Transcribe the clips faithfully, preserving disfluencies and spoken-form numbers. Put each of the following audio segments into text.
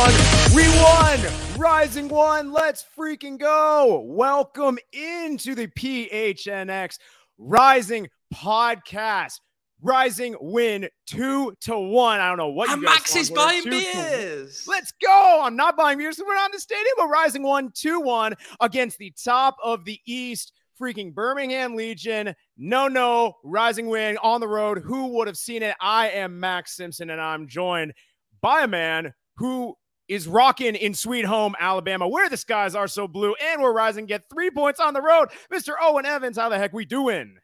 one. We won! Rising One, let's freaking go! Welcome into the P H N X Rising Podcast. Rising win two to one. I don't know what you and guys Max is buying beers. Let's go. I'm not buying beers. We're not in the stadium, but Rising won two one against the top of the East, freaking Birmingham Legion. No, no, Rising win on the road. Who would have seen it? I am Max Simpson, and I'm joined by a man who is rocking in Sweet Home, Alabama, where the skies are so blue, and where Rising get three points on the road. Mister Owen Evans, how the heck we doing?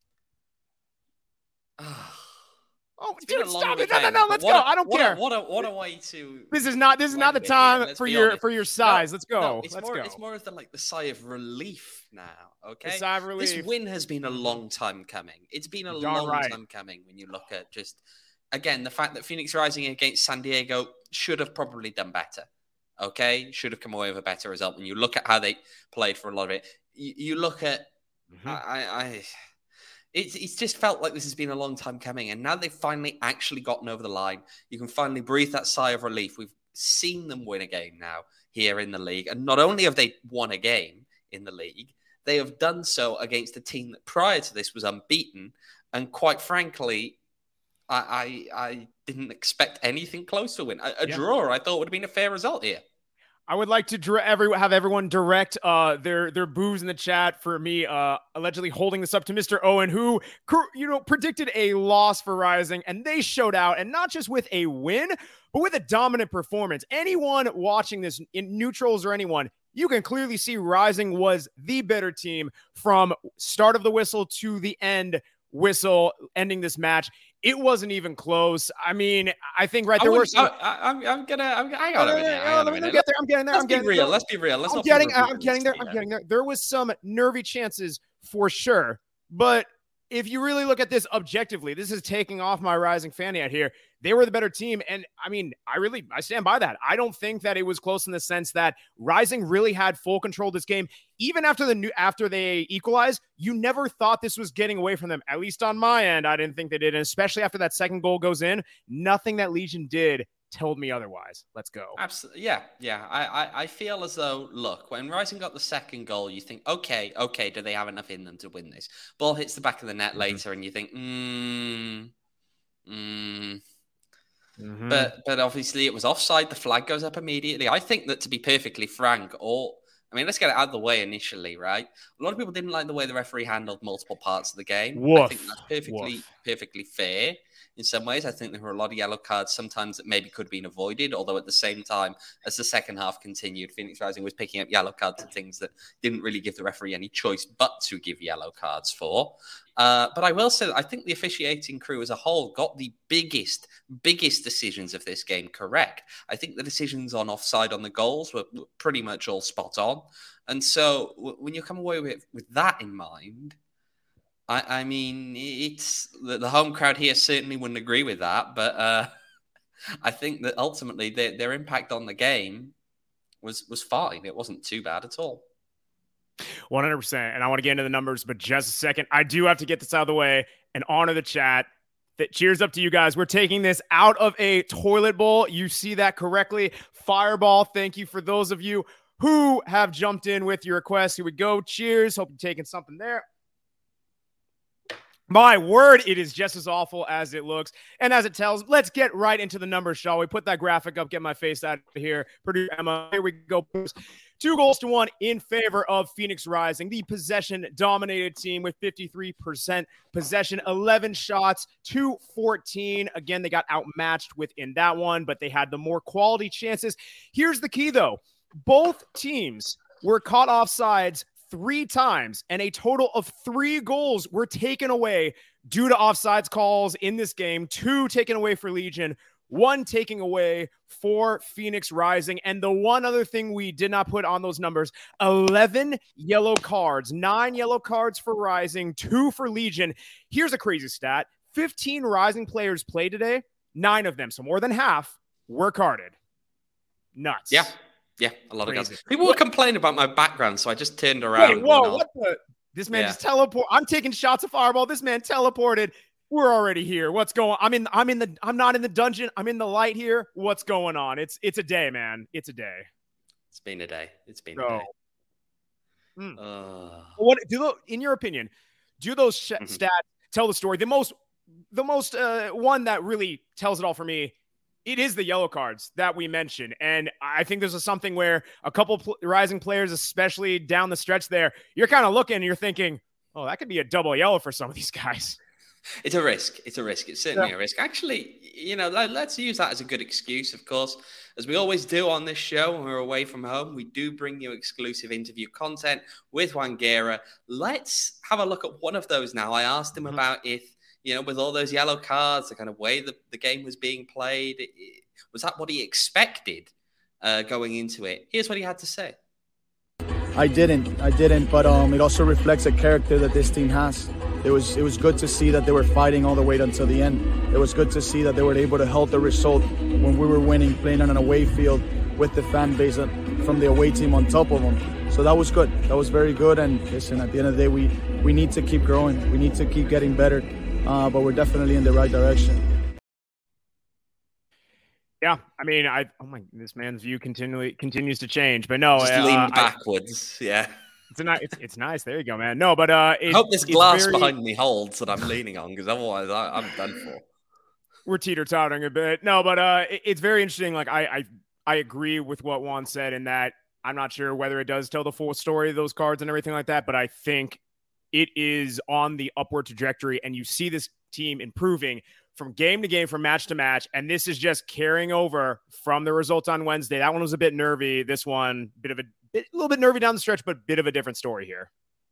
Oh, dude, stop it. No, no, no, let's go. A, I don't what care. A, what, a, what a way to... This is not This is not the time for your honest. for your size. No, let's go. No, it's let's more, go. It's more of the, like, the sigh of relief now, okay? The sigh of relief. This win has been a long time coming. It's been a Darn long right. time coming when you look at just... Again, the fact that Phoenix Rising against San Diego should have probably done better, okay? Should have come away with a better result. When you look at how they played for a lot of it, you, you look at... Mm-hmm. I... I It's, it's just felt like this has been a long time coming, and now they've finally actually gotten over the line. You can finally breathe that sigh of relief. We've seen them win a game now here in the league, and not only have they won a game in the league, they have done so against a team that prior to this was unbeaten, and quite frankly, I I, I didn't expect anything close to a win. A, a yeah. draw, I thought, would have been a fair result here. I would like to dr- every, have everyone direct uh, their their boos in the chat for me uh, allegedly holding this up to Mister Owen, who you know predicted a loss for Rising, and they showed out, and not just with a win, but with a dominant performance. Anyone watching this, in neutrals or anyone, you can clearly see Rising was the better team from start of the whistle to the end whistle, ending this match. It wasn't even close. I mean, I think right there were some... I, I'm, I'm gonna. I'm, I got it. Let me get there. I'm getting there. Let's I'm getting be real. there. Let's be real. Let's I'm not getting. I'm getting there. I'm getting there. There was some nervy chances for sure, but if you really look at this objectively, this is taking off my Rising fanny out here. They were the better team, and I mean, I really, I stand by that. I don't think that it was close in the sense that Rising really had full control of this game. Even after the new, after they equalized, you never thought this was getting away from them. At least on my end, I didn't think they did, and especially after that second goal goes in, nothing that Legion did told me otherwise. Let's go. Absolutely. Yeah. Yeah. I, I, I feel as though, look, when Rising got the second goal, you think, okay, okay, do they have enough in them to win this? Ball hits the back of the net mm-hmm. later, and you think, hmm, hmm. Mm-hmm. But but obviously it was offside. The flag goes up immediately. I think that, to be perfectly frank, or I mean, let's get it out of the way initially, right? A lot of people didn't like the way the referee handled multiple parts of the game. Woof. I think that's perfectly Woof. perfectly fair. In some ways, I think there were a lot of yellow cards sometimes that maybe could have been avoided, although at the same time, as the second half continued, Phoenix Rising was picking up yellow cards and things that didn't really give the referee any choice but to give yellow cards for. Uh, but I will say that I think the officiating crew as a whole got the biggest, biggest decisions of this game correct. I think the decisions on offside on the goals were pretty much all spot on. And so w- when you come away with, with that in mind, I, I mean, it's the, the home crowd here certainly wouldn't agree with that, but uh, I think that ultimately their, their impact on the game was was fine. It wasn't too bad at all. one hundred percent. And I want to get into the numbers, but just a second. I do have to get this out of the way and honor the chat. That cheers up to you guys. We're taking this out of a toilet bowl. You see that correctly. Fireball. Thank you for those of you who have jumped in with your requests. Here we go. Cheers. Hope you're taking something there. My word, it is just as awful as it looks and as it tells. Let's get right into the numbers, shall we? Put that graphic up, get my face out of here. Producer Emma, here we go. Two goals to one in favor of Phoenix Rising, the possession-dominated team with fifty-three percent possession, eleven shots to fourteen. Again, they got outmatched within that one, but they had the more quality chances. Here's the key, though. Both teams were caught offsides three times, and a total of three goals were taken away due to offsides calls in this game. Two taken away for Legion, one taking away for Phoenix Rising. And the one other thing we did not put on those numbers, eleven yellow cards, nine yellow cards for Rising, two for Legion. Here's a crazy stat. fifteen Rising players played today. Nine of them, so more than half, were carded. Nuts. Yeah. Yeah, a lot Crazy. of guys. People were complaining about my background, so I just turned around. Wait, whoa, what the? This man yeah. just teleported. I'm taking shots of Fireball. This man teleported. We're already here. What's going? I'm in. I'm in the. I'm not in the dungeon. I'm in the light here. What's going on? It's. It's a day, man. It's a day. It's been a day. It's been so, a day. Mm. Uh, what do those, in your opinion? Do those sh- mm-hmm. stats tell the story? The most. The most uh, one that really tells it all for me. It is the yellow cards that we mentioned. And I think this is something where a couple pl- rising players, especially down the stretch there, you're kind of looking and you're thinking, oh, that could be a double yellow for some of these guys. It's a risk. It's a risk. It's certainly yeah. a risk. Actually, you know, let, let's use that as a good excuse, of course. As we always do on this show when we're away from home, we do bring you exclusive interview content with Juan Guerra. Let's have a look at one of those now. I asked him mm-hmm. about if, you know, with all those yellow cards, the kind of way the, the game was being played, it, was that what he expected uh, going into it? Here's what he had to say. I didn't. I didn't, but um, it also reflects a character that this team has. It was it was good to see that they were fighting all the way until the end. It was good to see that they were able to hold the result when we were winning, playing on an away field with the fan base from the away team on top of them. So that was good. That was very good. And listen, at the end of the day, we, we need to keep growing. We need to keep getting better, uh, but we're definitely in the right direction. Yeah, I mean, I oh my, this man's view continually continues to change, but no, just uh, lean I, backwards. Yeah, it's a nice, it's, it's nice. There you go, man. No, but uh, it, I hope this glass very, behind me holds that I'm leaning on, because otherwise I, I'm done for. We're teeter-tottering a bit. No, but uh, it, it's very interesting. Like I, I, I agree with what Juan said in that I'm not sure whether it does tell the full story of those cards and everything like that, but I think it is on the upward trajectory, and you see this team improving from game to game, from match to match. And this is just carrying over from the result on Wednesday. That one was a bit nervy. This one, bit of a, bit, a little bit nervy down the stretch, but bit of a different story here.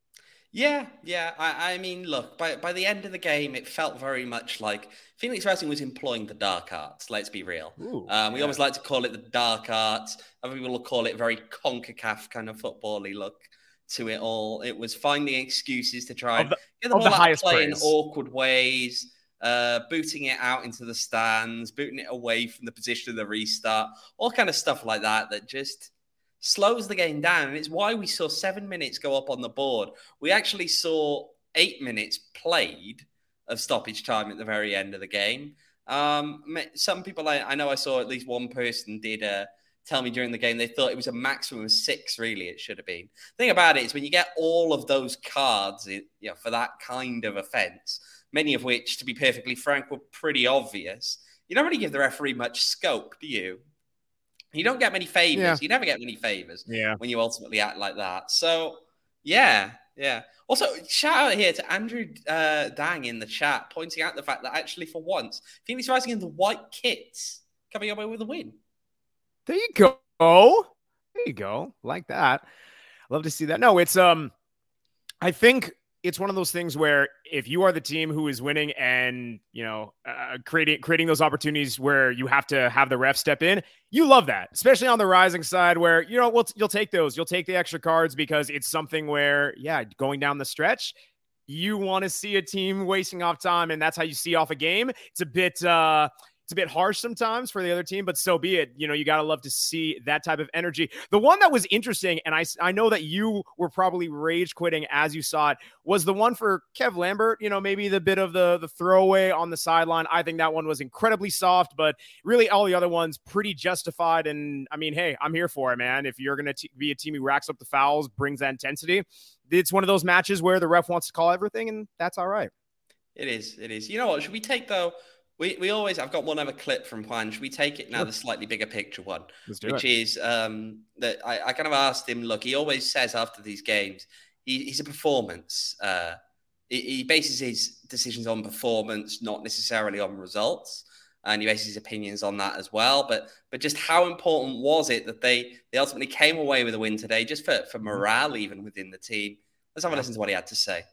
Yeah, yeah. I, I mean, look, by, by the end of the game, it felt very much like Phoenix Rising was employing the dark arts. Let's be real. Ooh, um, we yeah. always like to call it the dark arts. Other people will call it very CONCACAF kind of football-y look to it all. It was finding excuses to try and the, get the ball the out, play praise. in awkward ways. Uh, booting it out into the stands, booting it away from the position of the restart, all kind of stuff like that that just slows the game down. And it's why we saw seven minutes go up on the board. We actually saw eight minutes played of stoppage time at the very end of the game. Um, some people, I, I know I saw at least one person did uh, tell me during the game they thought it was a maximum of six, really, it should have been. The thing about it is when you get all of those cards you know, for that kind of offence, many of which, to be perfectly frank, were pretty obvious, you don't really give the referee much scope, do you? You don't get many favours. Yeah. You never get many favours yeah. when you ultimately act like that. So, yeah, yeah. Also, shout out here to Andrew uh, Dang in the chat, pointing out the fact that actually for once, Phoenix Rising in the white kits coming away with a win. There you go. There you go. Like that. Love to see that. No, it's, um, I think, it's one of those things where if you are the team who is winning and, you know, uh, creating creating those opportunities where you have to have the ref step in, you love that, especially on the Rising side where, you know, we'll, you'll take those. You'll take the extra cards because it's something where, yeah, going down the stretch, you want to see a team wasting off time, and that's how you see off a game. It's a bit... Uh, It's a bit harsh sometimes for the other team, but so be it. You know, you got to love to see that type of energy. The one that was interesting, and I, I know that you were probably rage quitting as you saw it, was the one for Kev Lambert. You know, maybe the bit of the, the throwaway on the sideline. I think that one was incredibly soft, but really all the other ones pretty justified. And I mean, hey, I'm here for it, man. If you're going to be a team who racks up the fouls, brings that intensity, it's one of those matches where the ref wants to call everything, and that's all right. It is. It is. You know what? Should we take, though, We we always, I've got one other clip from Juan. Should we take it now, sure. The slightly bigger picture one, which it. is um, that I, I kind of asked him, look, he always says after these games, he, he's a performance. Uh, he, he bases his decisions on performance, not necessarily on results. And he bases his opinions on that as well. But but just how important was it that they, they ultimately came away with a win today, just for, for morale even within the team? Let's have a listen to what he had to say.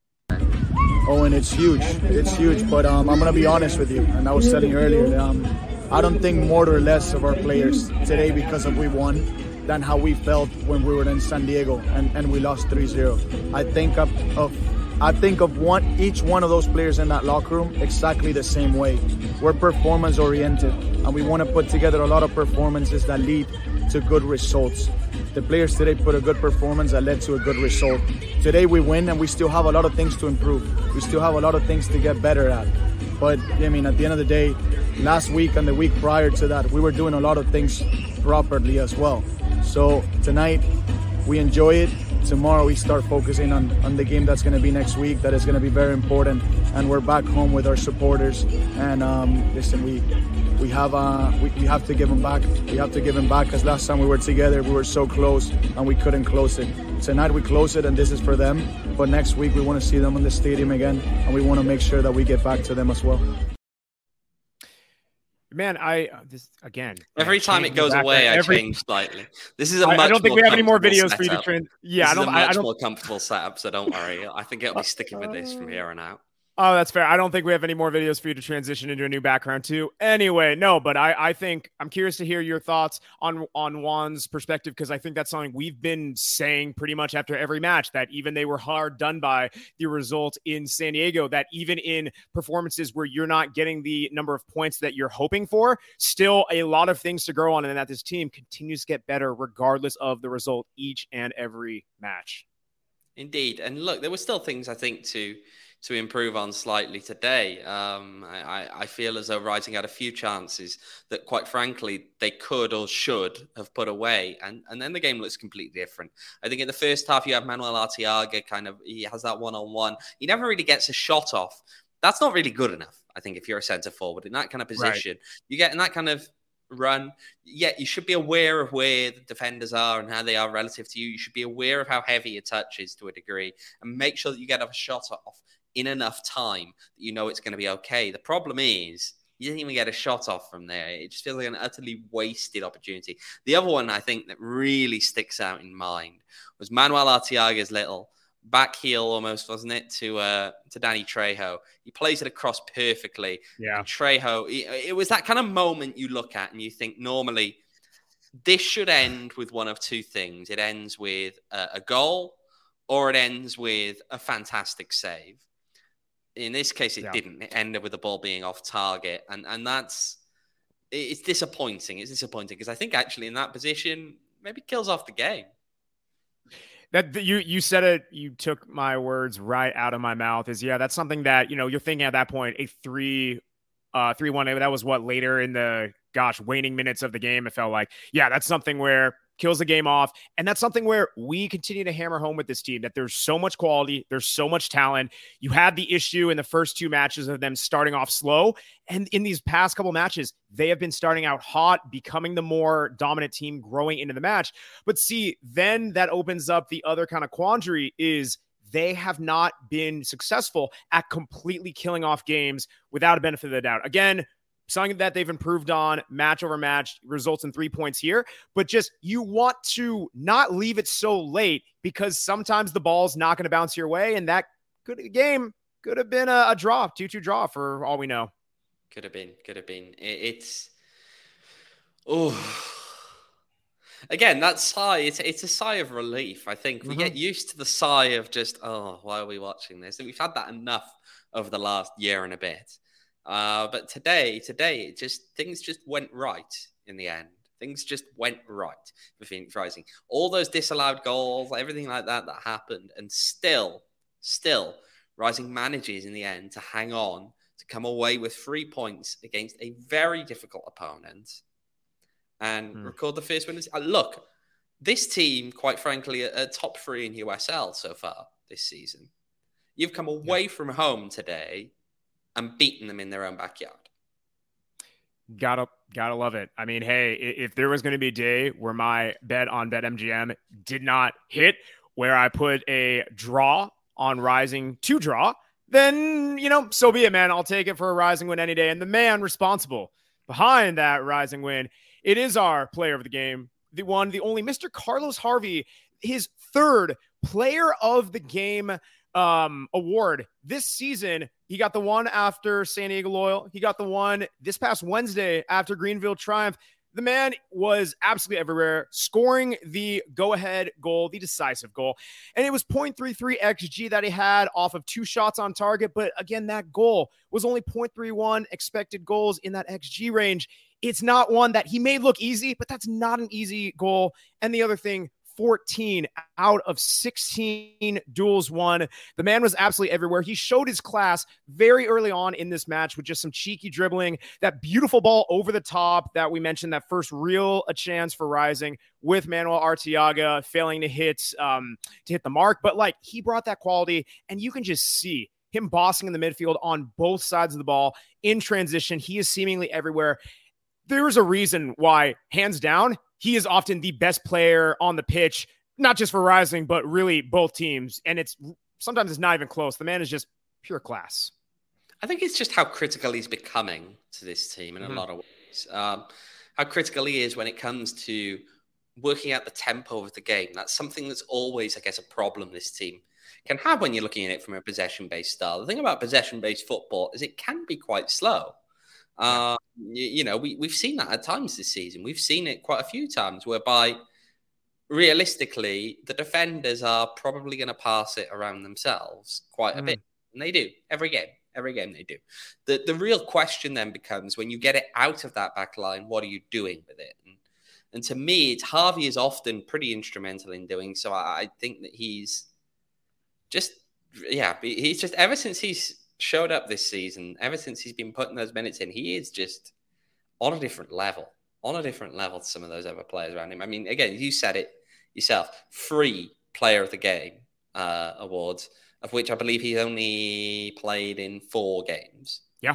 Oh, and it's huge. It's huge. But um, I'm going to be honest with you. And I was telling you earlier, um, I don't think more or less of our players today because of we won than how we felt when we were in San Diego and, and we lost three zero. I think of, of I think of one each one of those players in that locker room exactly the same way. We're performance oriented, and we want to put together a lot of performances that lead to good results. The players today put a good performance that led to a good result. Today we win, and we still have a lot of things to improve. We still have a lot of things to get better at. But, I mean, at the end of the day, last week and the week prior to that, we were doing a lot of things properly as well. So tonight, we enjoy it. Tomorrow, we start focusing on, on the game that's going to be next week. That is going to be very important. And we're back home with our supporters. And um, listen, we we have uh, we, we have to give them back. We have to give them back, because last time we were together, we were so close and we couldn't close it. Tonight we close it, and this is for them. But next week we want to see them in the stadium again, and we want to make sure that we get back to them as well. Man, I uh, this again. Every time it goes away, I every... change slightly. This is a I, much I don't think more we have any more videos setup. for you to train. Yeah, this I don't. Is a much I don't. more comfortable setup, so don't worry. I think it'll be sticking with this from here on out. Oh, that's fair. I don't think we have any more videos for you to transition into a new background to. Anyway, no, but I, I think I'm curious to hear your thoughts on, on Juan's perspective, because I think that's something we've been saying pretty much after every match, that even they were hard done by the result in San Diego, that even in performances where you're not getting the number of points that you're hoping for, still a lot of things to grow on, and that this team continues to get better regardless of the result each and every match. Indeed. And look, there were still things I think to to improve on slightly today. Um, I, I feel as though Rising had a few chances that, quite frankly, they could or should have put away. And, and then the game looks completely different. I think in the first half, you have Manuel Arteaga kind of, he has that one-on-one. He never really gets a shot off. That's not really good enough, I think, if you're a centre forward in that kind of position. Right. You get in that kind of run, yeah, you should be aware of where the defenders are and how they are relative to you. You should be aware of how heavy your touch is to a degree, and make sure that you get a shot off in enough time that you know it's going to be okay. The problem is you didn't even get a shot off from there. It just feels like an utterly wasted opportunity. The other one I think that really sticks out in mind was Manuel Arteaga's little back heel almost, wasn't it, to uh, to Danny Trejo. He plays it across perfectly. Yeah. And Trejo, it, it was that kind of moment you look at and you think normally this should end with one of two things. It ends with a, a goal, or it ends with a fantastic save. In this case, it yeah. didn't. It ended with the ball being off target. And and that's, it's disappointing. It's disappointing because I think actually in that position, maybe kills off the game. That you you said it, you took my words right out of my mouth. Is yeah, that's something that, you know, you're thinking at that point, a three, uh, three one. That was what, later in the gosh waning minutes of the game. It felt like, yeah, that's something where kills the game off, and that's something where we continue to hammer home with this team that there's so much quality, there's so much talent. You had the issue in the first two matches of them starting off slow, and in these past couple matches, they have been starting out hot, becoming the more dominant team, growing into the match. But see, then that opens up the other kind of quandary is they have not been successful at completely killing off games without a benefit of the doubt. Again, something that they've improved on match over match, results in three points here, but just you want to not leave it so late, because sometimes the ball's not going to bounce your way, and that could game could have been a, a draw, two two draw for all we know. Could have been, could have been. It, it's, oh, again, that sigh, it's, it's a sigh of relief. I think we mm-hmm. get used to the sigh of just, oh, why are we watching this? And we've had that enough over the last year and a bit. Uh, but today, today, it just things just went right in the end. Things just went right for Phoenix Rising. All those disallowed goals, everything like that that happened, and still, still, Rising manages in the end to hang on, to come away with three points against a very difficult opponent, and mm. record the first win. Uh, look, this team, quite frankly, are, are top three in U S L so far this season. You've come away yeah. from home today and beaten them in their own backyard. Gotta, gotta love it. I mean, hey, if there was going to be a day where my bet on BetMGM did not hit, where I put a draw on Rising to draw, then, you know, so be it, man. I'll take it for a Rising win any day. And the man responsible behind that Rising win, it is our player of the game, the one, the only Mister Carlos Harvey, his third player of the game um award this season. He got the one after San Diego Loyal. He got the one this past Wednesday after Greenville Triumph. The man was absolutely everywhere, scoring the go-ahead goal, the decisive goal. And it was point three three X G that he had off of two shots on target. But again, that goal was only point three one expected goals in that X G range. it's not one that he may look easy, but that's not an easy goal. And the other thing, fourteen out of sixteen duels won. The man was absolutely everywhere. He showed his class very early on in this match with just some cheeky dribbling, that beautiful ball over the top that we mentioned, that first real a chance for Rising with Manuel Arteaga failing to hit um, to hit the mark. But like, he brought that quality, and you can just see him bossing in the midfield on both sides of the ball in transition. He is seemingly everywhere. There is a reason why, hands down, he is often the best player on the pitch, not just for Rising, but really both teams. And it's sometimes it's not even close. The man is just pure class. I think it's just how critical he's becoming to this team in mm-hmm. a lot of ways. Um, how critical he is when it comes to working out the tempo of the game. That's something that's always, I guess, a problem this team can have when you're looking at it from a possession-based style. The thing about possession-based football is it can be quite slow. Uh, you, you know, we, we've seen that at times this season. We've seen it quite a few times whereby, realistically, the defenders are probably going to pass it around themselves quite a mm. bit. And they do. Every game. Every game they do. The the real question then becomes, when you get it out of that back line, what are you doing with it? And, and to me, it's Harvey is often pretty instrumental in doing so. I, I think that he's just, yeah, he's just, ever since he's showed up this season, ever since he's been putting those minutes in, he is just on a different level, on a different level to some of those other players around him. I mean, again, you said it yourself, free player of the game uh, awards, of which I believe he only played in four games. Yeah.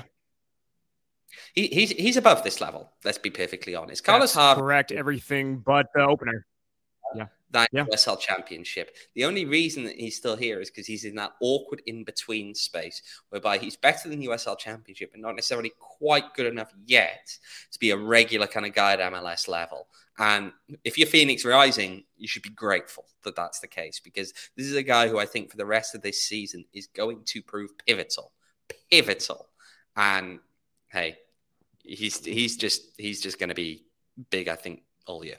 He, he's he's above this level, let's be perfectly honest. Carlos That's Harvey. Correct, everything but the opener. Yeah. That yeah. U S L Championship. The only reason that he's still here is because he's in that awkward in-between space whereby he's better than U S L Championship but not necessarily quite good enough yet to be a regular kind of guy at M L S level. And if you're Phoenix Rising, you should be grateful that that's the case, because this is a guy who I think for the rest of this season is going to prove pivotal. Pivotal. And hey, he's he's just he's just going to be big, I think, all year.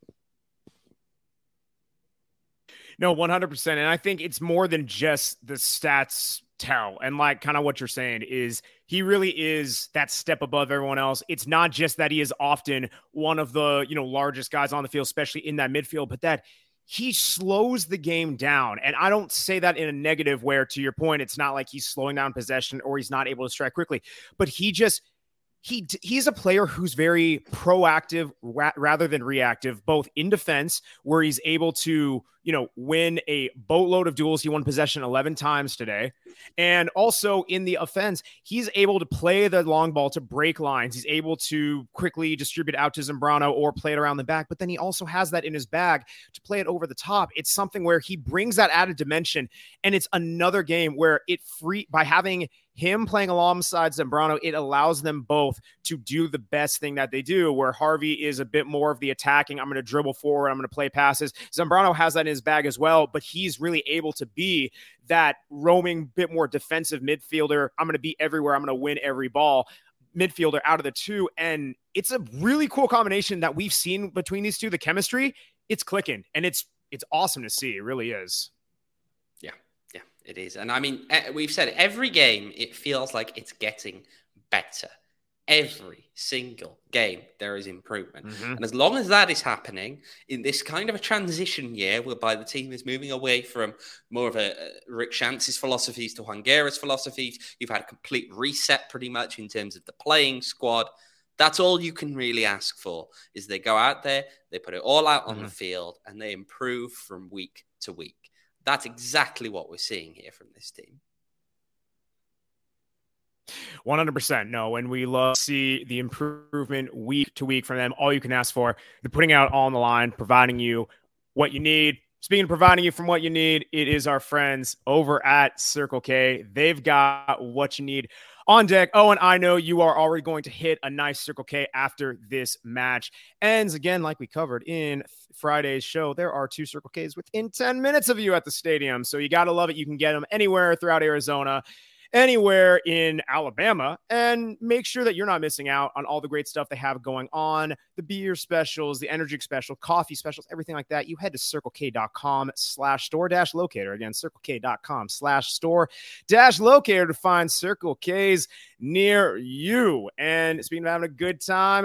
No, one hundred percent. And I think it's more than just the stats tell. And like kind of what you're saying is he really is that step above everyone else. It's not just that he is often one of the, you know, largest guys on the field, especially in that midfield, but that he slows the game down. And I don't say that in a negative where, to your point, it's not like he's slowing down possession or he's not able to strike quickly, but he just He he's a player who's very proactive ra- rather than reactive, both in defense, where he's able to, you know, win a boatload of duels. He won possession eleven times today. And also in the offense, he's able to play the long ball to break lines. He's able to quickly distribute out to Zambrano or play it around the back. But then he also has that in his bag to play it over the top. It's something where he brings that added dimension. And it's another game where it free by having him playing alongside Zambrano, it allows them both to do the best thing that they do, where Harvey is a bit more of the attacking. I'm going to dribble forward. I'm going to play passes. Zambrano has that in his bag as well, but he's really able to be that roaming, bit more defensive midfielder. I'm going to be everywhere. I'm going to win every ball midfielder out of the two. And it's a really cool combination that we've seen between these two. The chemistry, it's clicking, and it's, it's awesome to see. It really is. It is. And I mean, we've said every game, it feels like it's getting better. Every single game, there is improvement. Mm-hmm. And as long as that is happening in this kind of a transition year, whereby the team is moving away from more of a, a Rick Shantz's philosophies to Juan Guerra's philosophies, you've had a complete reset pretty much in terms of the playing squad. That's all you can really ask for, is they go out there, they put it all out on mm-hmm. the field, and they improve from week to week. That's exactly what we're seeing here from this team. one hundred percent. No, and we love to see the improvement week to week from them. All you can ask for, they're putting out all on the line, providing you what you need. Speaking of providing you from what you need, it is our friends over at Circle K. They've got what you need on deck. Oh, and I know you are already going to hit a nice Circle K after this match ends. Again, like we covered in Friday's show, there are two Circle Ks within ten minutes of you at the stadium. So you got to love it. You can get them anywhere throughout Arizona, anywhere in Alabama, and make sure that you're not missing out on all the great stuff they have going on. The beer specials, the energy special, coffee specials, everything like that. You head to circlek.com slash store dash locator. Again, circlek.com slash store dash locator to find Circle K's near you. And speaking of having a good time,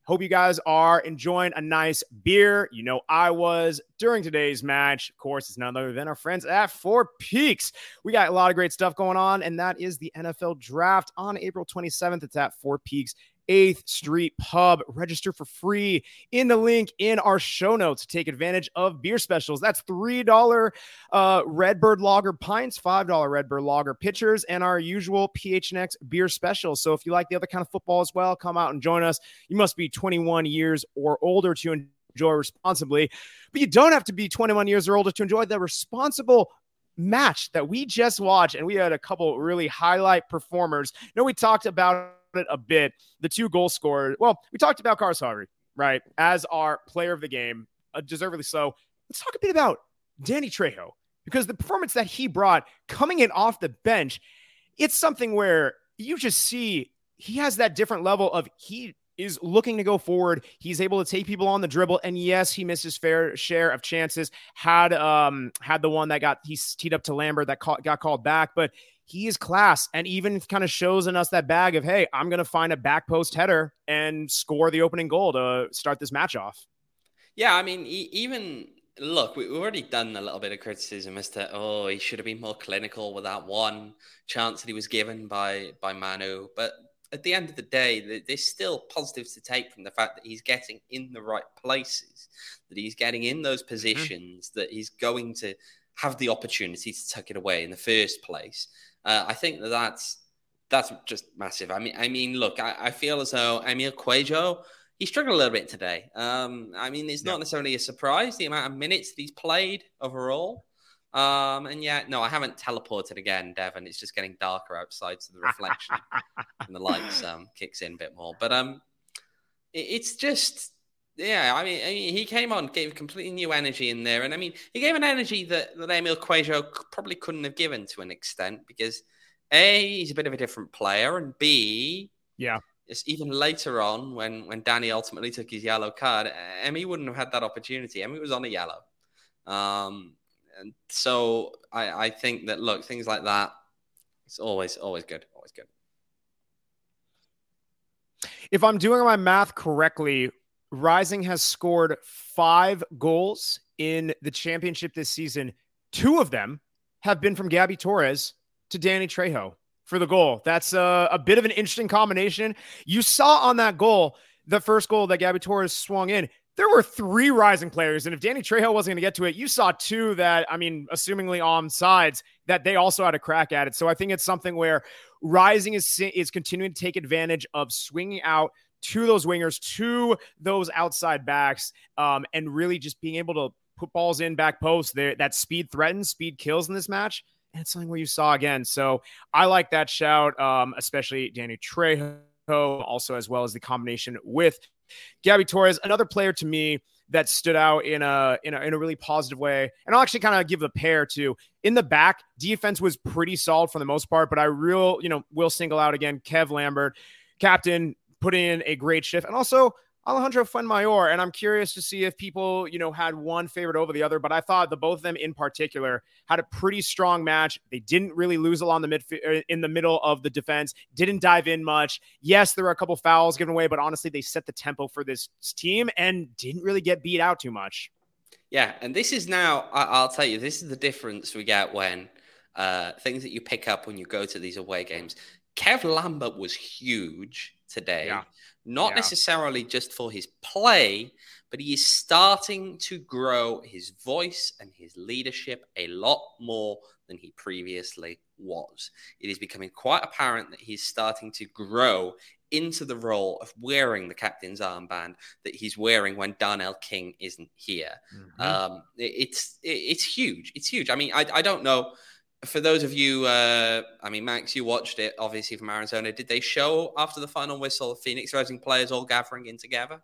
Hope you guys are enjoying a nice beer. You know I was during today's match. Of course, it's none other than our friends at Four Peaks. We got a lot of great stuff going on, and that is the N F L Draft on April twenty-seventh. It's at Four Peaks eighth Street Pub. Register for free in the link in our show notes to take advantage of beer specials. That's three dollars uh, Redbird Lager pints, five dollars Redbird Lager pitchers, and our usual P H N X beer special. So if you like the other kind of football as well, come out and join us. You must be twenty-one years or older to enjoy responsibly, but you don't have to be twenty-one years or older to enjoy the responsible match that we just watched. And we had a couple really highlight performers. You know, we talked about it a bit. The two goal scorers. Well, we talked about Carlos Harvey, right, as our player of the game, uh, deservedly so. Let's talk a bit about Danny Trejo, because the performance that he brought coming in off the bench, it's something where you just see he has that different level of he is looking to go forward. He's able to take people on the dribble. And yes, he missed his fair share of chances. Had um had the one that got he teed up to Lambert that call, got called back, but he is class, and even kind of shows in us that bag of, hey, I'm going to find a back post header and score the opening goal to start this match off. Yeah, I mean, even look, we've already done a little bit of criticism as to, oh, he should have been more clinical with that one chance that he was given by by Manu. But at the end of the day, there's still positives to take from the fact that he's getting in the right places, that he's getting in those positions, mm-hmm. that he's going to have the opportunity to tuck it away in the first place. Uh, I think that that's that's just massive. I mean, I mean, look, I, I feel as though Emil Cuello, he struggled a little bit today. Um, I mean, it's not yeah. necessarily a surprise, the amount of minutes that he's played overall. Um, and yeah, no, I haven't teleported again, Devon. It's just getting darker outside, so the reflection and the lights um, kicks in a bit more. But um, it, it's just... Yeah, I mean, I mean, he came on, gave completely new energy in there. And I mean, he gave an energy that, that Emil Cuello probably couldn't have given to an extent because A, he's a bit of a different player, and B, yeah, it's even later on when, when Danny ultimately took his yellow card, Emmy wouldn't have had that opportunity. Emmy was on a yellow. Um, and so I, I think that, look, things like that, it's always, always good, always good. If I'm doing my math correctly, Rising has scored five goals in the championship this season. Two of them have been from Gabby Torres to Danny Trejo for the goal. That's a, a bit of an interesting combination. You saw on that goal, the first goal that Gabby Torres swung in, there were three Rising players. And if Danny Trejo wasn't going to get to it, you saw two that, I mean, assumingly on sides, that they also had a crack at it. So I think it's something where Rising is, is continuing to take advantage of swinging out to those wingers, to those outside backs, um, and really just being able to put balls in back post. There, that speed threatens, speed kills in this match, and it's something where you saw again. So I like that shout, um, especially Danny Trejo, also as well as the combination with Gabby Torres, another player to me that stood out in a in a, in a really positive way. And I'll actually kind of give the pair to in the back. Defense was pretty solid for the most part, but I real you know will single out again Kev Lambert, captain. Put in a great shift, and also Alejandro Fuenmayor. And I'm curious to see if people, you know, had one favorite over the other, but I thought the both of them in particular had a pretty strong match. They didn't really lose along the mid in the middle of the defense, didn't dive in much. Yes, there were a couple fouls given away, but honestly, they set the tempo for this team and didn't really get beat out too much. Yeah. And this is now, I'll tell you, this is the difference we get when uh, things that you pick up when you go to these away games. Kev Lambert was huge today, yeah. not yeah. necessarily just for his play, but he is starting to grow his voice and his leadership a lot more than he previously was. It is becoming quite apparent that he's starting to grow into the role of wearing the captain's armband that he's wearing when Darnell King isn't here. Mm-hmm. Um, it, it's it, it's huge. It's huge. I mean, I, I don't know. For those of you, uh, I mean, Max, you watched it, obviously, from Arizona. Did they show, after the final whistle, Phoenix Rising players all gathering in together?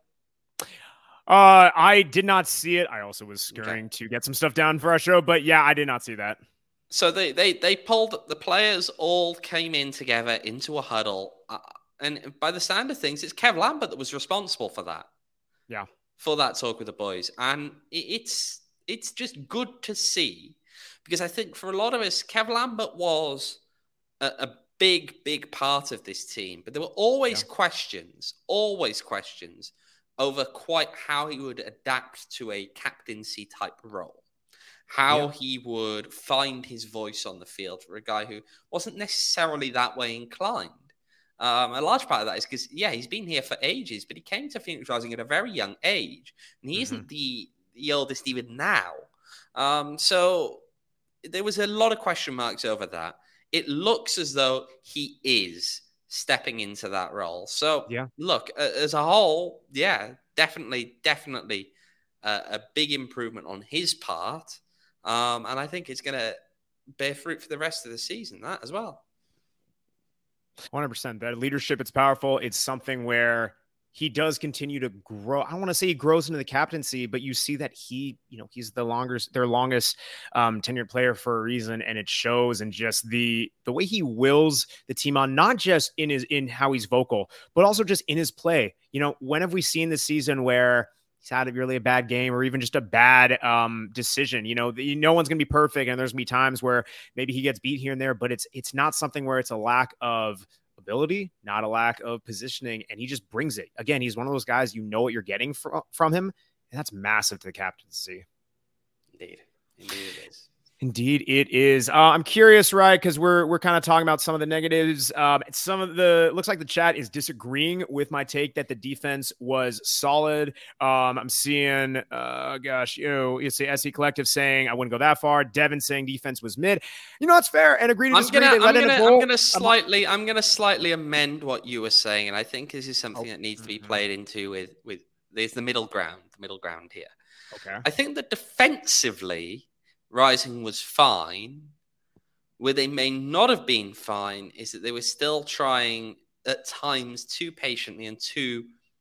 Uh, I did not see it. I also was scurrying okay. to get some stuff down for our show, but yeah, I did not see that. So they, they, they pulled, the players all came in together into a huddle. Uh, and by the sound of things, it's Kev Lambert that was responsible for that. Yeah. For that talk with the boys. And it's it's just good to see. Because I think for a lot of us, Kev Lambert was a, a big, big part of this team. But there were always yeah. questions, always questions. over quite how he would adapt to a captaincy type role. How yeah. he would find his voice on the field for a guy who wasn't necessarily that way inclined. Um, a large part of that is because, yeah, he's been here for ages, but he came to Phoenix Rising at a very young age, and he mm-hmm. isn't the, the oldest even now. Um, so there was a lot of question marks over that. It looks as though he is stepping into that role. So, yeah. look, as a whole, yeah, definitely, definitely uh, a big improvement on his part. Um, and I think it's going to bear fruit for the rest of the season, that as well. one hundred percent. That leadership, it's powerful. It's something where he does continue to grow. I don't want to say he grows into the captaincy, but you see that he, you know, he's the longest, their longest um, tenured player for a reason. And it shows in just the, the way he wills the team on, not just in his, in how he's vocal, but also just in his play. You know, when have we seen this season where he's had a really a bad game or even just a bad um, decision? You know, the, no one's going to be perfect. And there's going to be times where maybe he gets beat here and there, but it's, it's not something where it's a lack of ability, not a lack of positioning. And he just brings it. Again, he's one of those guys, you know what you're getting from, from him. And that's massive to the captaincy. Indeed. Indeed it is. Indeed, it is. Uh, I'm curious, right? Because we're we're kind of talking about some of the negatives. Um, some of the looks like the chat is disagreeing with my take that the defense was solid. Um, I'm seeing, uh, gosh, you know, you see S E Collective saying I wouldn't go that far. Devin saying defense was mid. You know, it's fair and agree to disagree. I'm gonna, I'm gonna, I'm gonna slightly, I'm gonna slightly amend what you were saying, and I think this is something oh, that needs to be played into with with. There's the middle ground, the middle ground here. Okay. I think that defensively, Rising was fine. Where they may not have been fine is that they were still trying at times too patiently and too,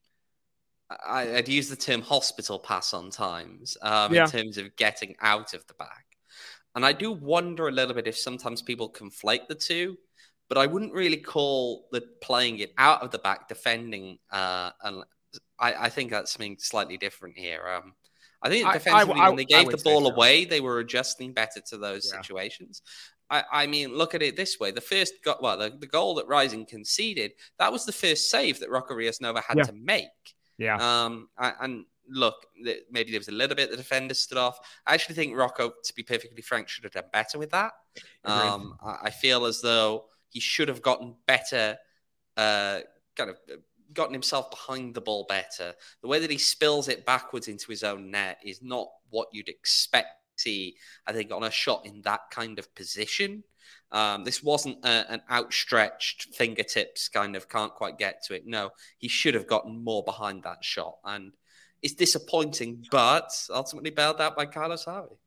I, I'd use the term hospital pass on times um, yeah. in terms of getting out of the back. And I do wonder a little bit if sometimes people conflate the two, but I wouldn't really call the playing it out of the back defending. Uh, and I, I think that's something slightly different here. Um, I think defensively, I, I, when they gave the ball so. away, they were adjusting better to those yeah. situations. I, I mean, look at it this way. The first go- well, the, the goal that Rising conceded, that was the first save that Rocco Rios Nova had yeah. to make. Yeah. Um. And look, maybe there was a little bit the defender stood off. I actually think Rocco, to be perfectly frank, should have done better with that. Um. I feel as though he should have gotten better, uh, kind of gotten himself behind the ball better. The way that he spills it backwards into his own net is not what you'd expect to see, I think, on a shot in that kind of position. Um, this wasn't a, an outstretched fingertips kind of can't quite get to it. No, he should have gotten more behind that shot. And it's disappointing, but ultimately bailed out by Carlos Harvey.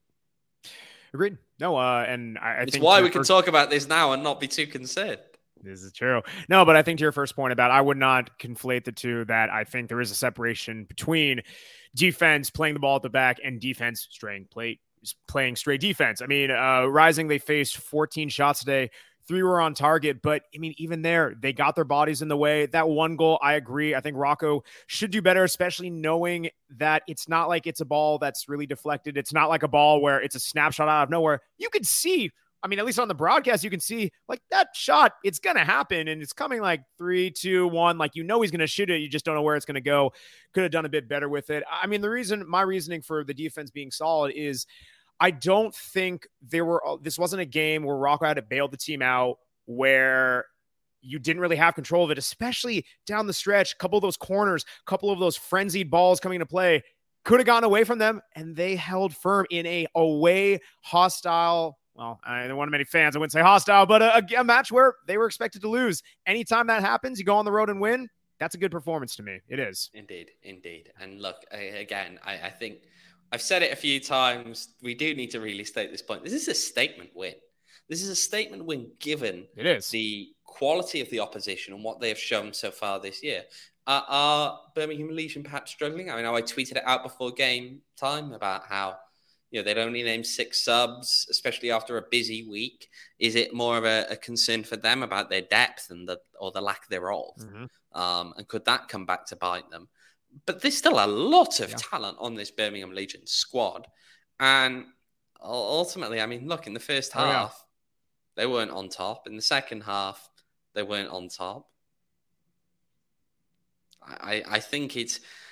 Agreed. No, uh, and I, I it's think why we can talk about this now and not be too concerned. This is true. No, but I think to your first point about I would not conflate the two, that I think there is a separation between defense playing the ball at the back and defense straying plate, playing straight defense. I mean, uh, Rising, they faced fourteen shots today. Three were on target, but I mean, even there, they got their bodies in the way. That one goal, I agree. I think Rocco should do better, especially knowing that it's not like it's a ball that's really deflected. It's not like a ball where it's a snapshot out of nowhere. You could see, I mean, at least on the broadcast, you can see like that shot, it's going to happen and it's coming like three, two, one. Like, you know, he's going to shoot it. You just don't know where it's going to go. Could have done a bit better with it. I mean, the reason, my reasoning for the defense being solid is I don't think there were, this wasn't a game where Rocco had to bail the team out where you didn't really have control of it, especially down the stretch. A couple of those corners, a couple of those frenzied balls coming into play could have gotten away from them. And they held firm in a away hostile, well, I don't want many fans, I wouldn't say hostile, but a, a match where they were expected to lose. Anytime that happens, you go on the road and win. That's a good performance to me. It is. Indeed, indeed. And look, again, I, I think I've said it a few times. We do need to really state this point. This is a statement win. This is a statement win given it is. the quality of the opposition and what they have shown so far this year. Uh, are Birmingham Legion perhaps struggling? I mean, I tweeted it out before game time about how, you know, they'd only named six subs, especially after a busy week. Is it more of a, a concern for them about their depth and the or the lack thereof? Mm-hmm. Um, and could that come back to bite them? But there's still a lot of yeah. talent on this Birmingham Legion squad. And ultimately, I mean, look, in the first half, oh, yeah. they weren't on top. In the second half, they weren't on top. I, I think it's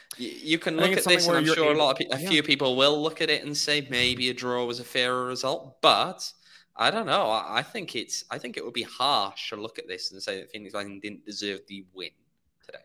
You, you can look at this, and I'm sure a lot of pe- a yeah. few people will look at it and say maybe a draw was a fairer result, but I don't know. I, I think it's. I think it would be harsh to look at this and say that Phoenix Rising didn't deserve the win today.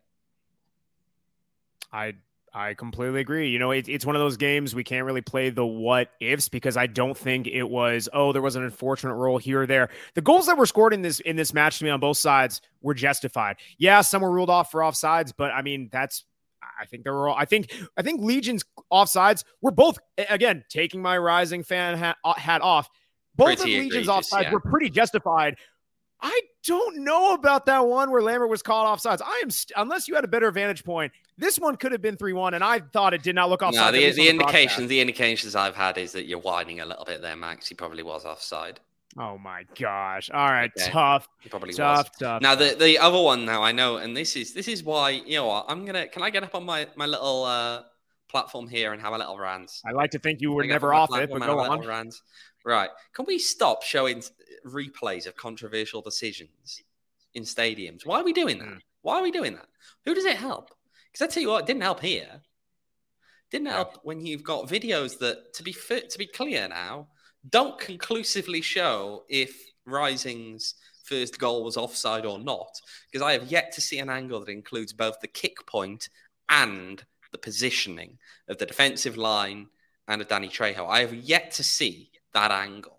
I. I completely agree. You know, it, it's one of those games we can't really play the what ifs because I don't think it was, oh, there was an unfortunate roll here or there. The goals that were scored in this in this match to me on both sides were justified. Yeah, some were ruled off for offsides, but I mean, that's I think they were all I think I think Legion's offsides were both, again, taking my Rising fan hat, hat off. Both pretty of Legion's offsides yeah. were pretty justified. I don't know about that one where Lambert was called offsides. I am st- unless you had a better vantage point. This one could have been three one, and I thought it did not look offside. No, the, the indications, the indications I've had is that you're whining a little bit there, Max. He probably was offside. Oh my gosh! All right, okay. tough. He probably tough, was. Tough. Now the the other one, now I know, and this is this is why you know what I'm gonna. Can I get up on my my little uh, platform here and have a little rant? I like to think you were never off it, but go on. Rant? Right? Can we stop showing replays of controversial decisions in stadiums? Why are we doing that? Mm. Why are we doing that? Who does it help? Because I tell you what, it didn't help here. Didn't help when you've got videos that, to be fit, to be clear now, don't conclusively show if Rising's first goal was offside or not. Because I have yet to see an angle that includes both the kick point and the positioning of the defensive line and of Danny Trejo. I have yet to see that angle.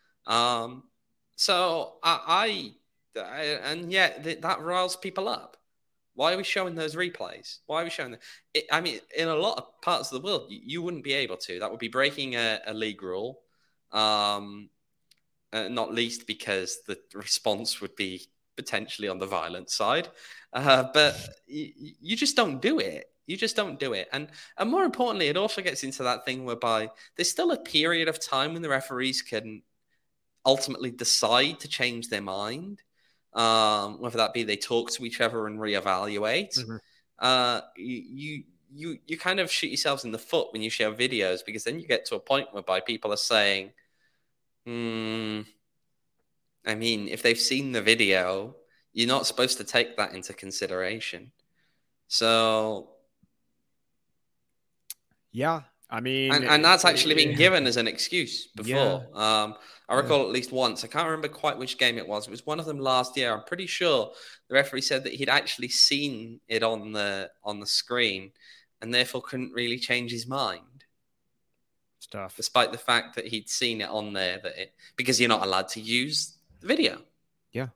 Um, so I, I, I and yet th- that riles people up. Why are we showing those replays? Why are we showing them? It, I mean, in a lot of parts of the world, you, you wouldn't be able to. That would be breaking a, a league rule, um, uh, not least because the response would be potentially on the violent side. Uh, but you, you just don't do it. You just don't do it. And and more importantly, it also gets into that thing whereby there's still a period of time when the referees can ultimately decide to change their mind. Um, whether that be they talk to each other and reevaluate, mm-hmm. uh, you you you kind of shoot yourselves in the foot when you share videos, because then you get to a point whereby people are saying, hmm, I mean, if they've seen the video, you're not supposed to take that into consideration. So, yeah. I mean, and, and that's actually been given as an excuse before. Yeah. Um, I recall yeah. at least once. I can't remember quite which game it was. It was one of them last year. I'm pretty sure the referee said that he'd actually seen it on the on the screen, and therefore couldn't really change his mind. Stuff, despite the fact that he'd seen it on there, that it because you're not allowed to use the video. Yeah,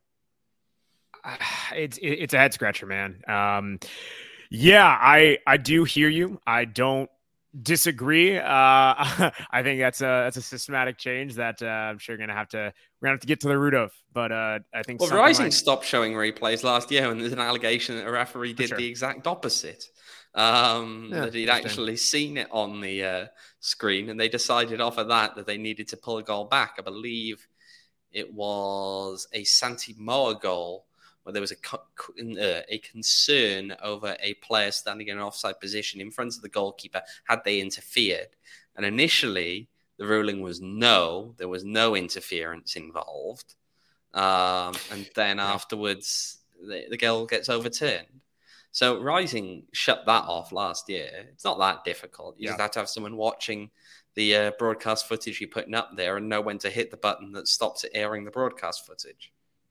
uh, it's it's a head scratcher, man. Um, yeah, I I do hear you. I don't disagree. Uh, I think that's a that's a systematic change that uh, I'm sure you're gonna have to we're gonna have to get to the root of. But uh, I think well, Rising like... stopped showing replays last year, and there's an allegation that a referee did sure. the exact opposite. Um, yeah, that he'd actually seen it on the uh, screen, and they decided off of that that they needed to pull a goal back. I believe it was a Santi Moa goal, where there was a, uh, a concern over a player standing in an offside position in front of the goalkeeper had they interfered. And initially, the ruling was no, there was no interference involved. Um, and then afterwards, the, the goal gets overturned. So Rising shut that off last year. It's not that difficult. You yeah. just have to have someone watching the uh, broadcast footage you're putting up there and know when to hit the button that stops it airing the broadcast footage.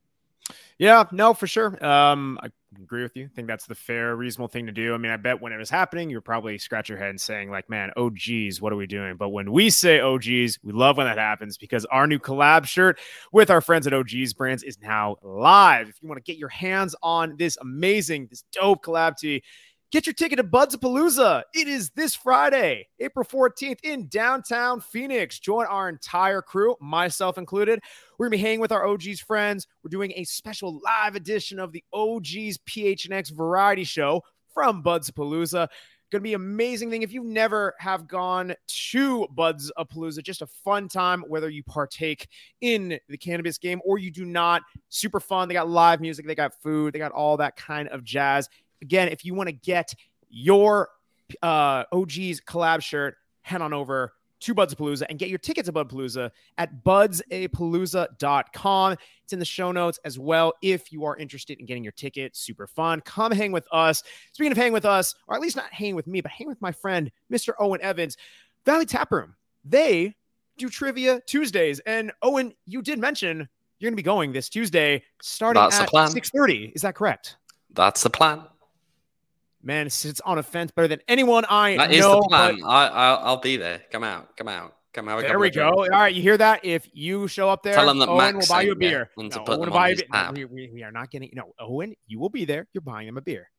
Yeah, no, for sure. Um, I agree with you. I think that's the fair, reasonable thing to do. I mean, I bet when it was happening, you're probably scratch your head and saying like, man, oh geez, what are we doing? But when we say oh geez, we love when that happens, because our new collab shirt with our friends at O G's Brands is now live. If you want to get your hands on this amazing, this dope collab tee, get your ticket to Budsapalooza. It is this Friday, April fourteenth in downtown Phoenix. Join our entire crew, myself included. We're going to be hanging with our O G's friends. We're doing a special live edition of the O G's P H N X variety show from Budsapalooza. Going to be an amazing thing. If you never have gone to Budsapalooza, just a fun time, whether you partake in the cannabis game or you do not. Super fun. They got live music. They got food. They got all that kind of jazz. Again, if you want to get your uh, O G's collab shirt, head on over to Budsapalooza and get your tickets to Budpalooza at buds a palooza dot com. It's in the show notes as well if you are interested in getting your ticket. Super fun. Come hang with us. Speaking of hang with us, or at least not hang with me, but hang with my friend, Mister Owen Evans, Valley Tap Room. They do Trivia Tuesdays. And Owen, you did mention you're going to be going this Tuesday starting That's at six thirty. Is that correct? That's the plan. Man, it sits on a fence better than anyone I that know. That is the plan. But... I, I, I'll be there. Come out. Come out. Come out. There we go. All right, you hear that? If you show up there, tell them that Owen Max will buy you a beer. And no, to put Owen them will buy on you his a beer. No, we, we, we are not getting. No, Owen, you will be there. You're buying them a beer.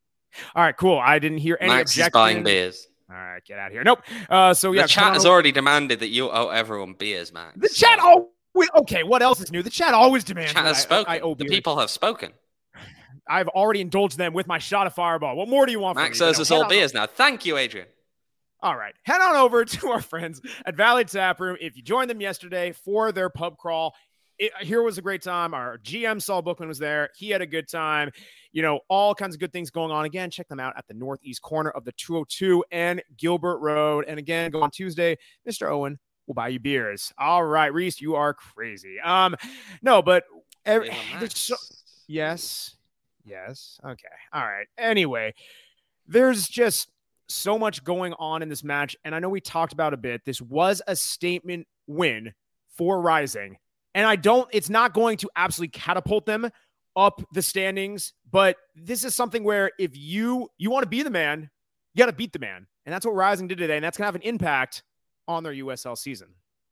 All right, cool. I didn't hear any Max objections. is buying beers. All right, get out of here. Nope. Uh, so yeah, the chat has already demanded that you owe everyone beers, Max. The chat. Oh, okay. What else is new? The chat always demands. The chat has spoken. I, I owe the beers. People have spoken. I've already indulged them with my shot of Fireball. What more do you want from Max me? owes us all beers now. Thank you, Adrian. All right. Head on over to our friends at Valley Tap Room. If you joined them yesterday for their pub crawl, it, here was a great time. Our G M, Saul Bookman, was there. He had a good time. You know, all kinds of good things going on. Again, check them out at the northeast corner of the two oh two and Gilbert Road. And again, go on Tuesday. Mister Owen will buy you beers. All right, Reese, you are crazy. Um, No, but every, so, yes. Yes. Okay. All right. Anyway, there's just so much going on in this match. And I know we talked about a bit. This was a statement win for Rising. And I don't, it's not going to absolutely catapult them up the standings. But this is something where if you, you want to be the man, you got to beat the man. And that's what Rising did today. And that's going to have an impact on their U S L season.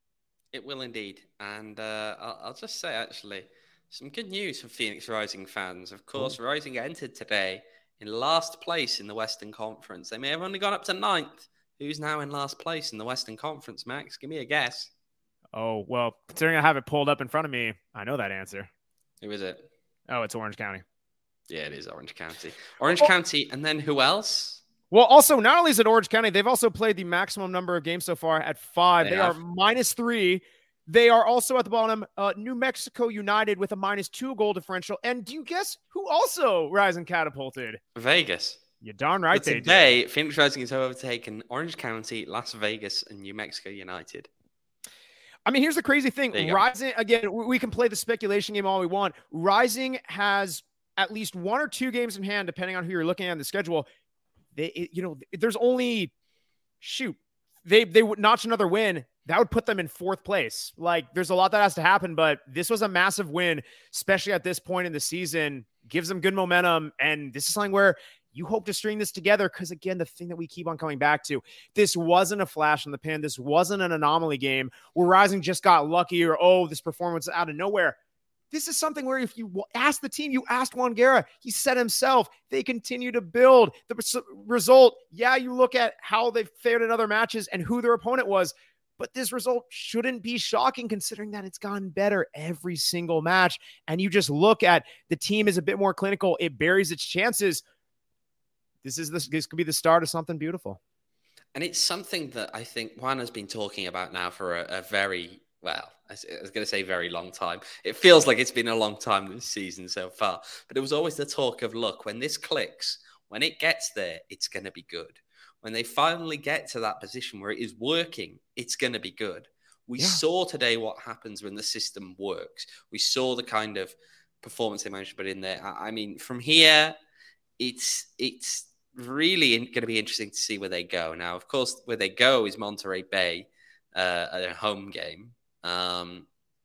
It will indeed. And uh, I'll, I'll just say, actually, some good news for Phoenix Rising fans. Of course, Ooh. Rising entered today in last place in the Western Conference. They may have only gone up to ninth. Who's now in last place in the Western Conference, Max? Give me a guess. Oh, well, considering I have it pulled up in front of me, I know that answer. Who is it? Oh, it's Orange County. Yeah, it is Orange County. Orange oh. County, and then who else? Well, also, not only is it Orange County, they've also played the maximum number of games so far at five. They, they are minus three. They are also at the bottom, uh, New Mexico United with a minus two goal differential. And do you guess who also Rising catapulted? Vegas. You're darn right but they today, did. Phoenix Rising has overtaken Orange County, Las Vegas, and New Mexico United. I mean, here's the crazy thing. Rising, go. again, we can play the speculation game all we want. Rising has at least one or two games in hand, depending on who you're looking at in the schedule. They, you know, there's only, shoot, they they would notch another win. That would put them in fourth place. Like, there's a lot that has to happen, but this was a massive win, especially at this point in the season. Gives them good momentum, and this is something where you hope to string this together because, again, the thing that we keep on coming back to, this wasn't a flash in the pan. This wasn't an anomaly game where Rising just got lucky or, oh, this performance out of nowhere. This is something where if you ask the team, you asked Juan Guerra, he said himself, they continue to build. The result, yeah, you look at how they fared in other matches and who their opponent was, but this result shouldn't be shocking considering that it's gotten better every single match. And you just look at the team is a bit more clinical. It buries its chances. This is this, this could be the start of something beautiful. And it's something that I think Juan has been talking about now for a, a very, well, I was going to say very long time. It feels like it's been a long time this season so far. But it was always the talk of, look, when this clicks, when it gets there, it's going to be good. When they finally get to that position where it is working, it's going to be good. We yeah. saw today what happens when the system works. We saw the kind of performance they managed to put in there. I mean, from here, it's it's really going to be interesting to see where they go. Now, of course, where they go is Monterey Bay, uh, a home game. Um,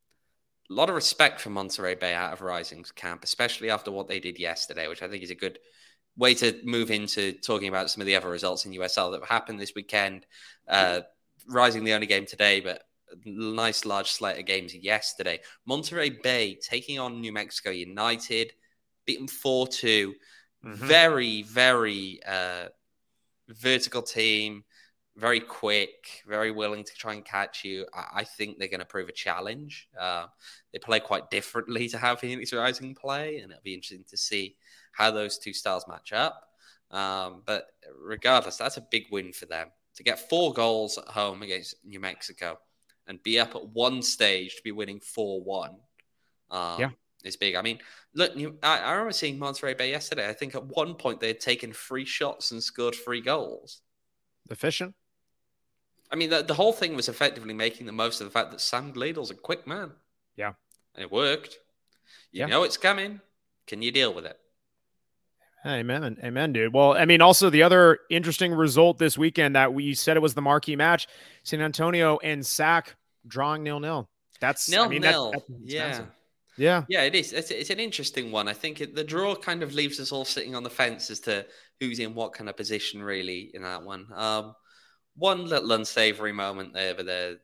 a lot of respect for Monterey Bay out of Rising's camp, especially after what they did yesterday, which I think is a good way to move into talking about some of the other results in U S L that happened this weekend. Uh, Rising the only game today, but a nice large slate of games yesterday. Monterey Bay taking on New Mexico United, beaten four two. Mm-hmm. Very, very uh, vertical team, very quick, very willing to try and catch you. I, I think they're going to prove a challenge. Uh, they play quite differently to how Phoenix Rising play, and it'll be interesting to see how those two styles match up. Um, but regardless, that's a big win for them. To get four goals at home against New Mexico and be up at one stage to be winning four one um, yeah. is big. I mean, look, New, I, I remember seeing Monterey Bay yesterday. I think at one point they had taken three shots and scored three goals. Efficient. I mean, the, the whole thing was effectively making the most of the fact that Sam Gleadle's a quick man. Yeah. And it worked. You yeah. know it's coming. Can you deal with it? Amen. Amen, dude. Well, I mean, also the other interesting result this weekend that we said it was the marquee match, San Antonio and S A C drawing nil-nil. That's nil I mean, nil. That, that's yeah. Yeah. Yeah, it is. It's, it's an interesting one. I think it, the draw kind of leaves us all sitting on the fence as to who's in what kind of position really in that one. Um, one little unsavory moment there with a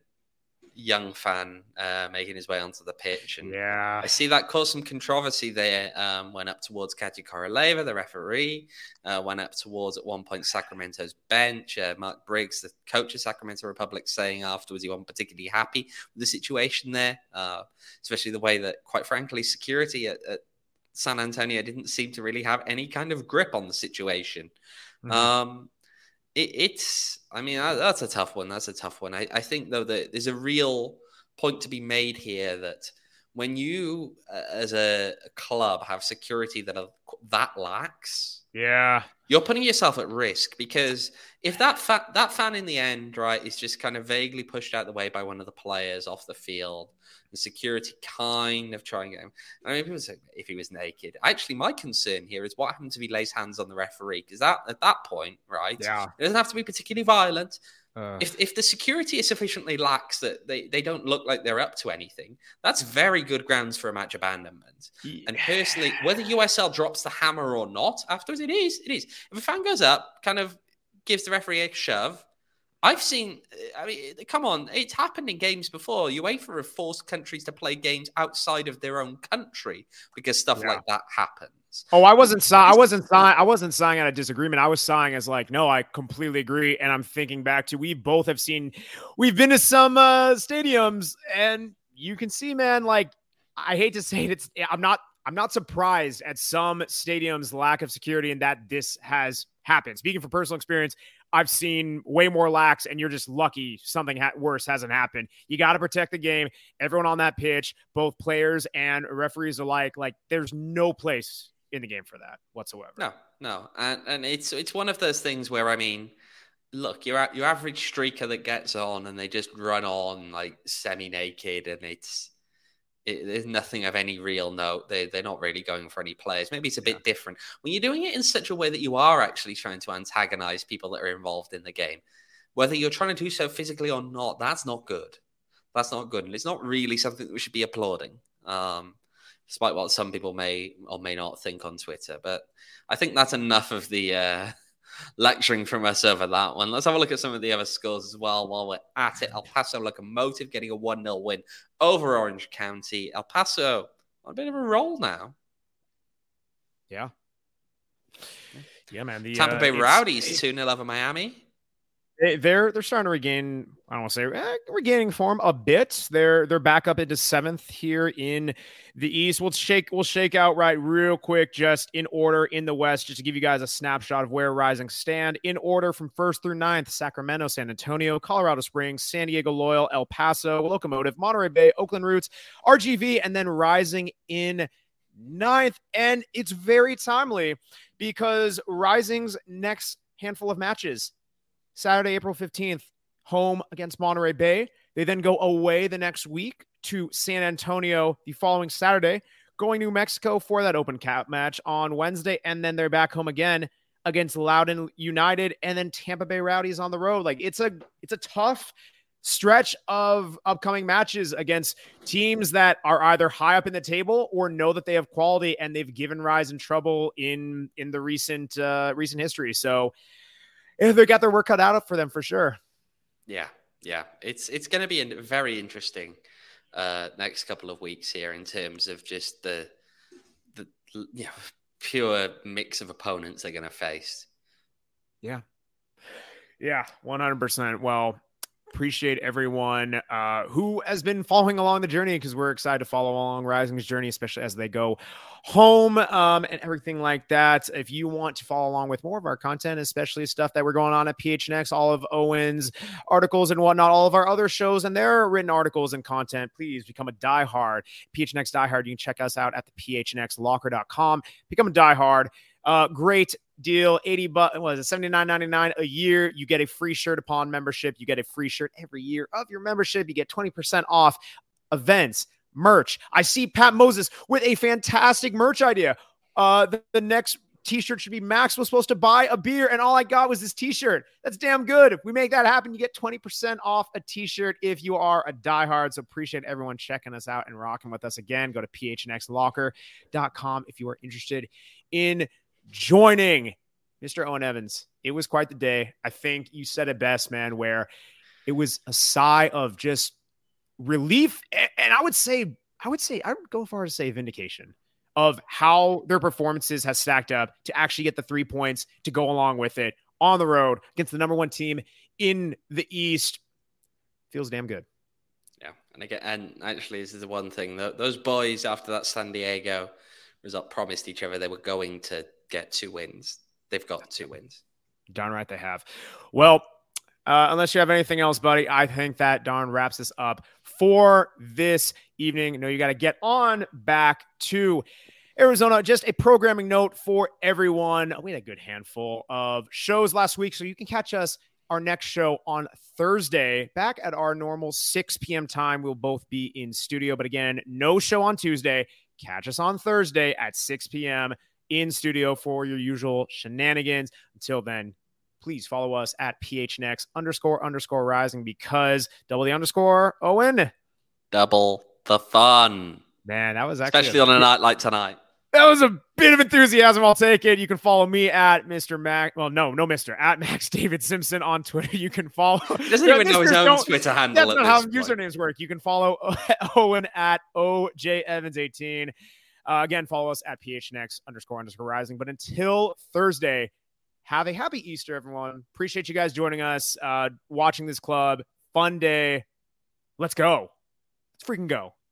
young fan uh, making his way onto the pitch. And yeah. I see that caused some controversy there. Um, went up towards Katia Koroleva, the referee. Uh, went up towards, at one point, Sacramento's bench. Uh, Mark Briggs, the coach of Sacramento Republic, saying afterwards he wasn't particularly happy with the situation there, uh, especially the way that, quite frankly, security at, at San Antonio didn't seem to really have any kind of grip on the situation. Mm-hmm. Um, it, it's, I mean, that's a tough one. That's a tough one. I, I think, though, that there's a real point to be made here that when you, uh, as a, a club, have security that are that lax, yeah, you're putting yourself at risk, because if that fa- that fan in the end, right, is just kind of vaguely pushed out the way by one of the players off the field, the security kind of trying to get him. I mean, people say if he was naked. Actually, my concern here is what happens if he lays hands on the referee, because that at that point, right, yeah, it doesn't have to be particularly violent. Uh, if if the security is sufficiently lax that they, they don't look like they're up to anything, that's very good grounds for a match abandonment. Yeah. And personally, whether U S L drops the hammer or not afterwards, it is. It is. If a fan goes up, kind of gives the referee a shove, I've seen, I mean, come on, it's happened in games before. UEFA have forced countries to play games outside of their own country because stuff yeah. like that happens. Oh, I wasn't sighing. I wasn't sighing. I wasn't sighing at a disagreement. I was sighing as like, no, I completely agree. And I'm thinking back to, we both have seen, we've been to some uh, stadiums, and you can see, man, like, I hate to say it, it's, I'm not, I'm not surprised at some stadiums' lack of security and that this has happened. Speaking from personal experience, I've seen way more lax, and you're just lucky something ha- worse hasn't happened. You got to protect the game. Everyone on that pitch, both players and referees alike, like, there's no place in the game for that whatsoever. No, no. And and it's it's one of those things where, I mean, look, your your average streaker that gets on and they just run on like semi-naked, and it's it, there's nothing of any real note. They they're not really going for any players. Maybe it's a bit yeah. different when you're doing it in such a way that you are actually trying to antagonize people that are involved in the game. Whether you're trying to do so physically or not, that's not good. That's not good, and it's not really something that we should be applauding. Um, Despite what some people may or may not think on Twitter. But I think that's enough of the uh, lecturing from us over that one. Let's have a look at some of the other scores as well while we're at it. El Paso Locomotive getting a one nil win over Orange County. El Paso on a bit of a roll now. Yeah. Yeah, man. The, Tampa uh, Bay Rowdies two nil over Miami. They're they're starting to regain. I don't want to say eh, regaining form a bit. They're they're back up into seventh here in the East. We'll shake we'll shake out right real quick, just in order in the West, just to give you guys a snapshot of where Rising stand in order from first through ninth: Sacramento, San Antonio, Colorado Springs, San Diego Loyal, El Paso, Locomotive, Monterey Bay, Oakland Roots, R G V, and then Rising in ninth. And it's very timely because Rising's next handful of matches: Saturday, April fifteenth, home against Monterey Bay. They then go away the next week to San Antonio the following Saturday, going to New Mexico for that Open Cup match on Wednesday, and then they're back home again against Loudoun United, and then Tampa Bay Rowdies on the road. Like, it's a it's a tough stretch of upcoming matches against teams that are either high up in the table or know that they have quality, and they've given Rising trouble in in the recent uh, recent history. So they got their work cut out for them for sure. Yeah, yeah. It's it's going to be a very interesting uh, next couple of weeks here in terms of just the the you know, pure mix of opponents they're going to face. Yeah. Yeah, one hundred percent. Well, appreciate everyone uh, who has been following along the journey, because we're excited to follow along Rising's journey, especially as they go home um, and everything like that. If you want to follow along with more of our content, especially stuff that we're going on at P H N X, all of Owen's articles and whatnot, all of our other shows and their written articles and content, please become a diehard. P H N X diehard. You can check us out at the P H N X locker dot com. Become a diehard. Uh, great deal, eighty bucks, was it seventy-nine ninety-nine a year? You get a free shirt upon membership. You get a free shirt every year of your membership. You get twenty percent off events, merch. I see Pat Moses with a fantastic merch idea. Uh, the, the next t-shirt should be Max was supposed to buy a beer and all I got was this t-shirt. That's damn good. If we make that happen, you get twenty percent off a t-shirt if you are a diehard. So appreciate everyone checking us out and rocking with us again. Go to p h n x locker dot com if you are interested in joining. Mister Owen Evans, it was quite the day. I think you said it best, man, where it was a sigh of just relief. And I would say, I would say, I would go far as to say vindication of how their performances has stacked up to actually get the three points to go along with it on the road against the number one team in the East. Feels damn good. Yeah. And again, and actually, this is the one thing that those boys after that San Diego result promised each other they were going to get two wins. They've got two wins. Darn right they have. Well, uh, unless you have anything else, buddy, I think that darn wraps us up for this evening. No, you got to get on back to Arizona. Just a programming note for everyone. We had a good handful of shows last week, so you can catch us our next show on Thursday, back at our normal six p.m. time. We'll both be in studio, but again, no show on Tuesday. Catch us on Thursday at six p.m. in studio for your usual shenanigans. Until then, please follow us at P H N X underscore underscore rising, because double the underscore, Owen. Double the fun. Man, that was actually especially a, on a night like tonight. That was a bit of enthusiasm. I'll take it. You can follow me at Mister Mac. Well, no, no, Mister at Max David Simpson on Twitter. You can follow. He doesn't even know his own Twitter handle. That's not how point. usernames work. You can follow Owen at O J Evans eighteen. Uh, again, follow us at P H N X underscore underscore rising. But until Thursday, have a happy Easter, everyone. Appreciate you guys joining us, uh, watching this club. Fun day. Let's go. Let's freaking go.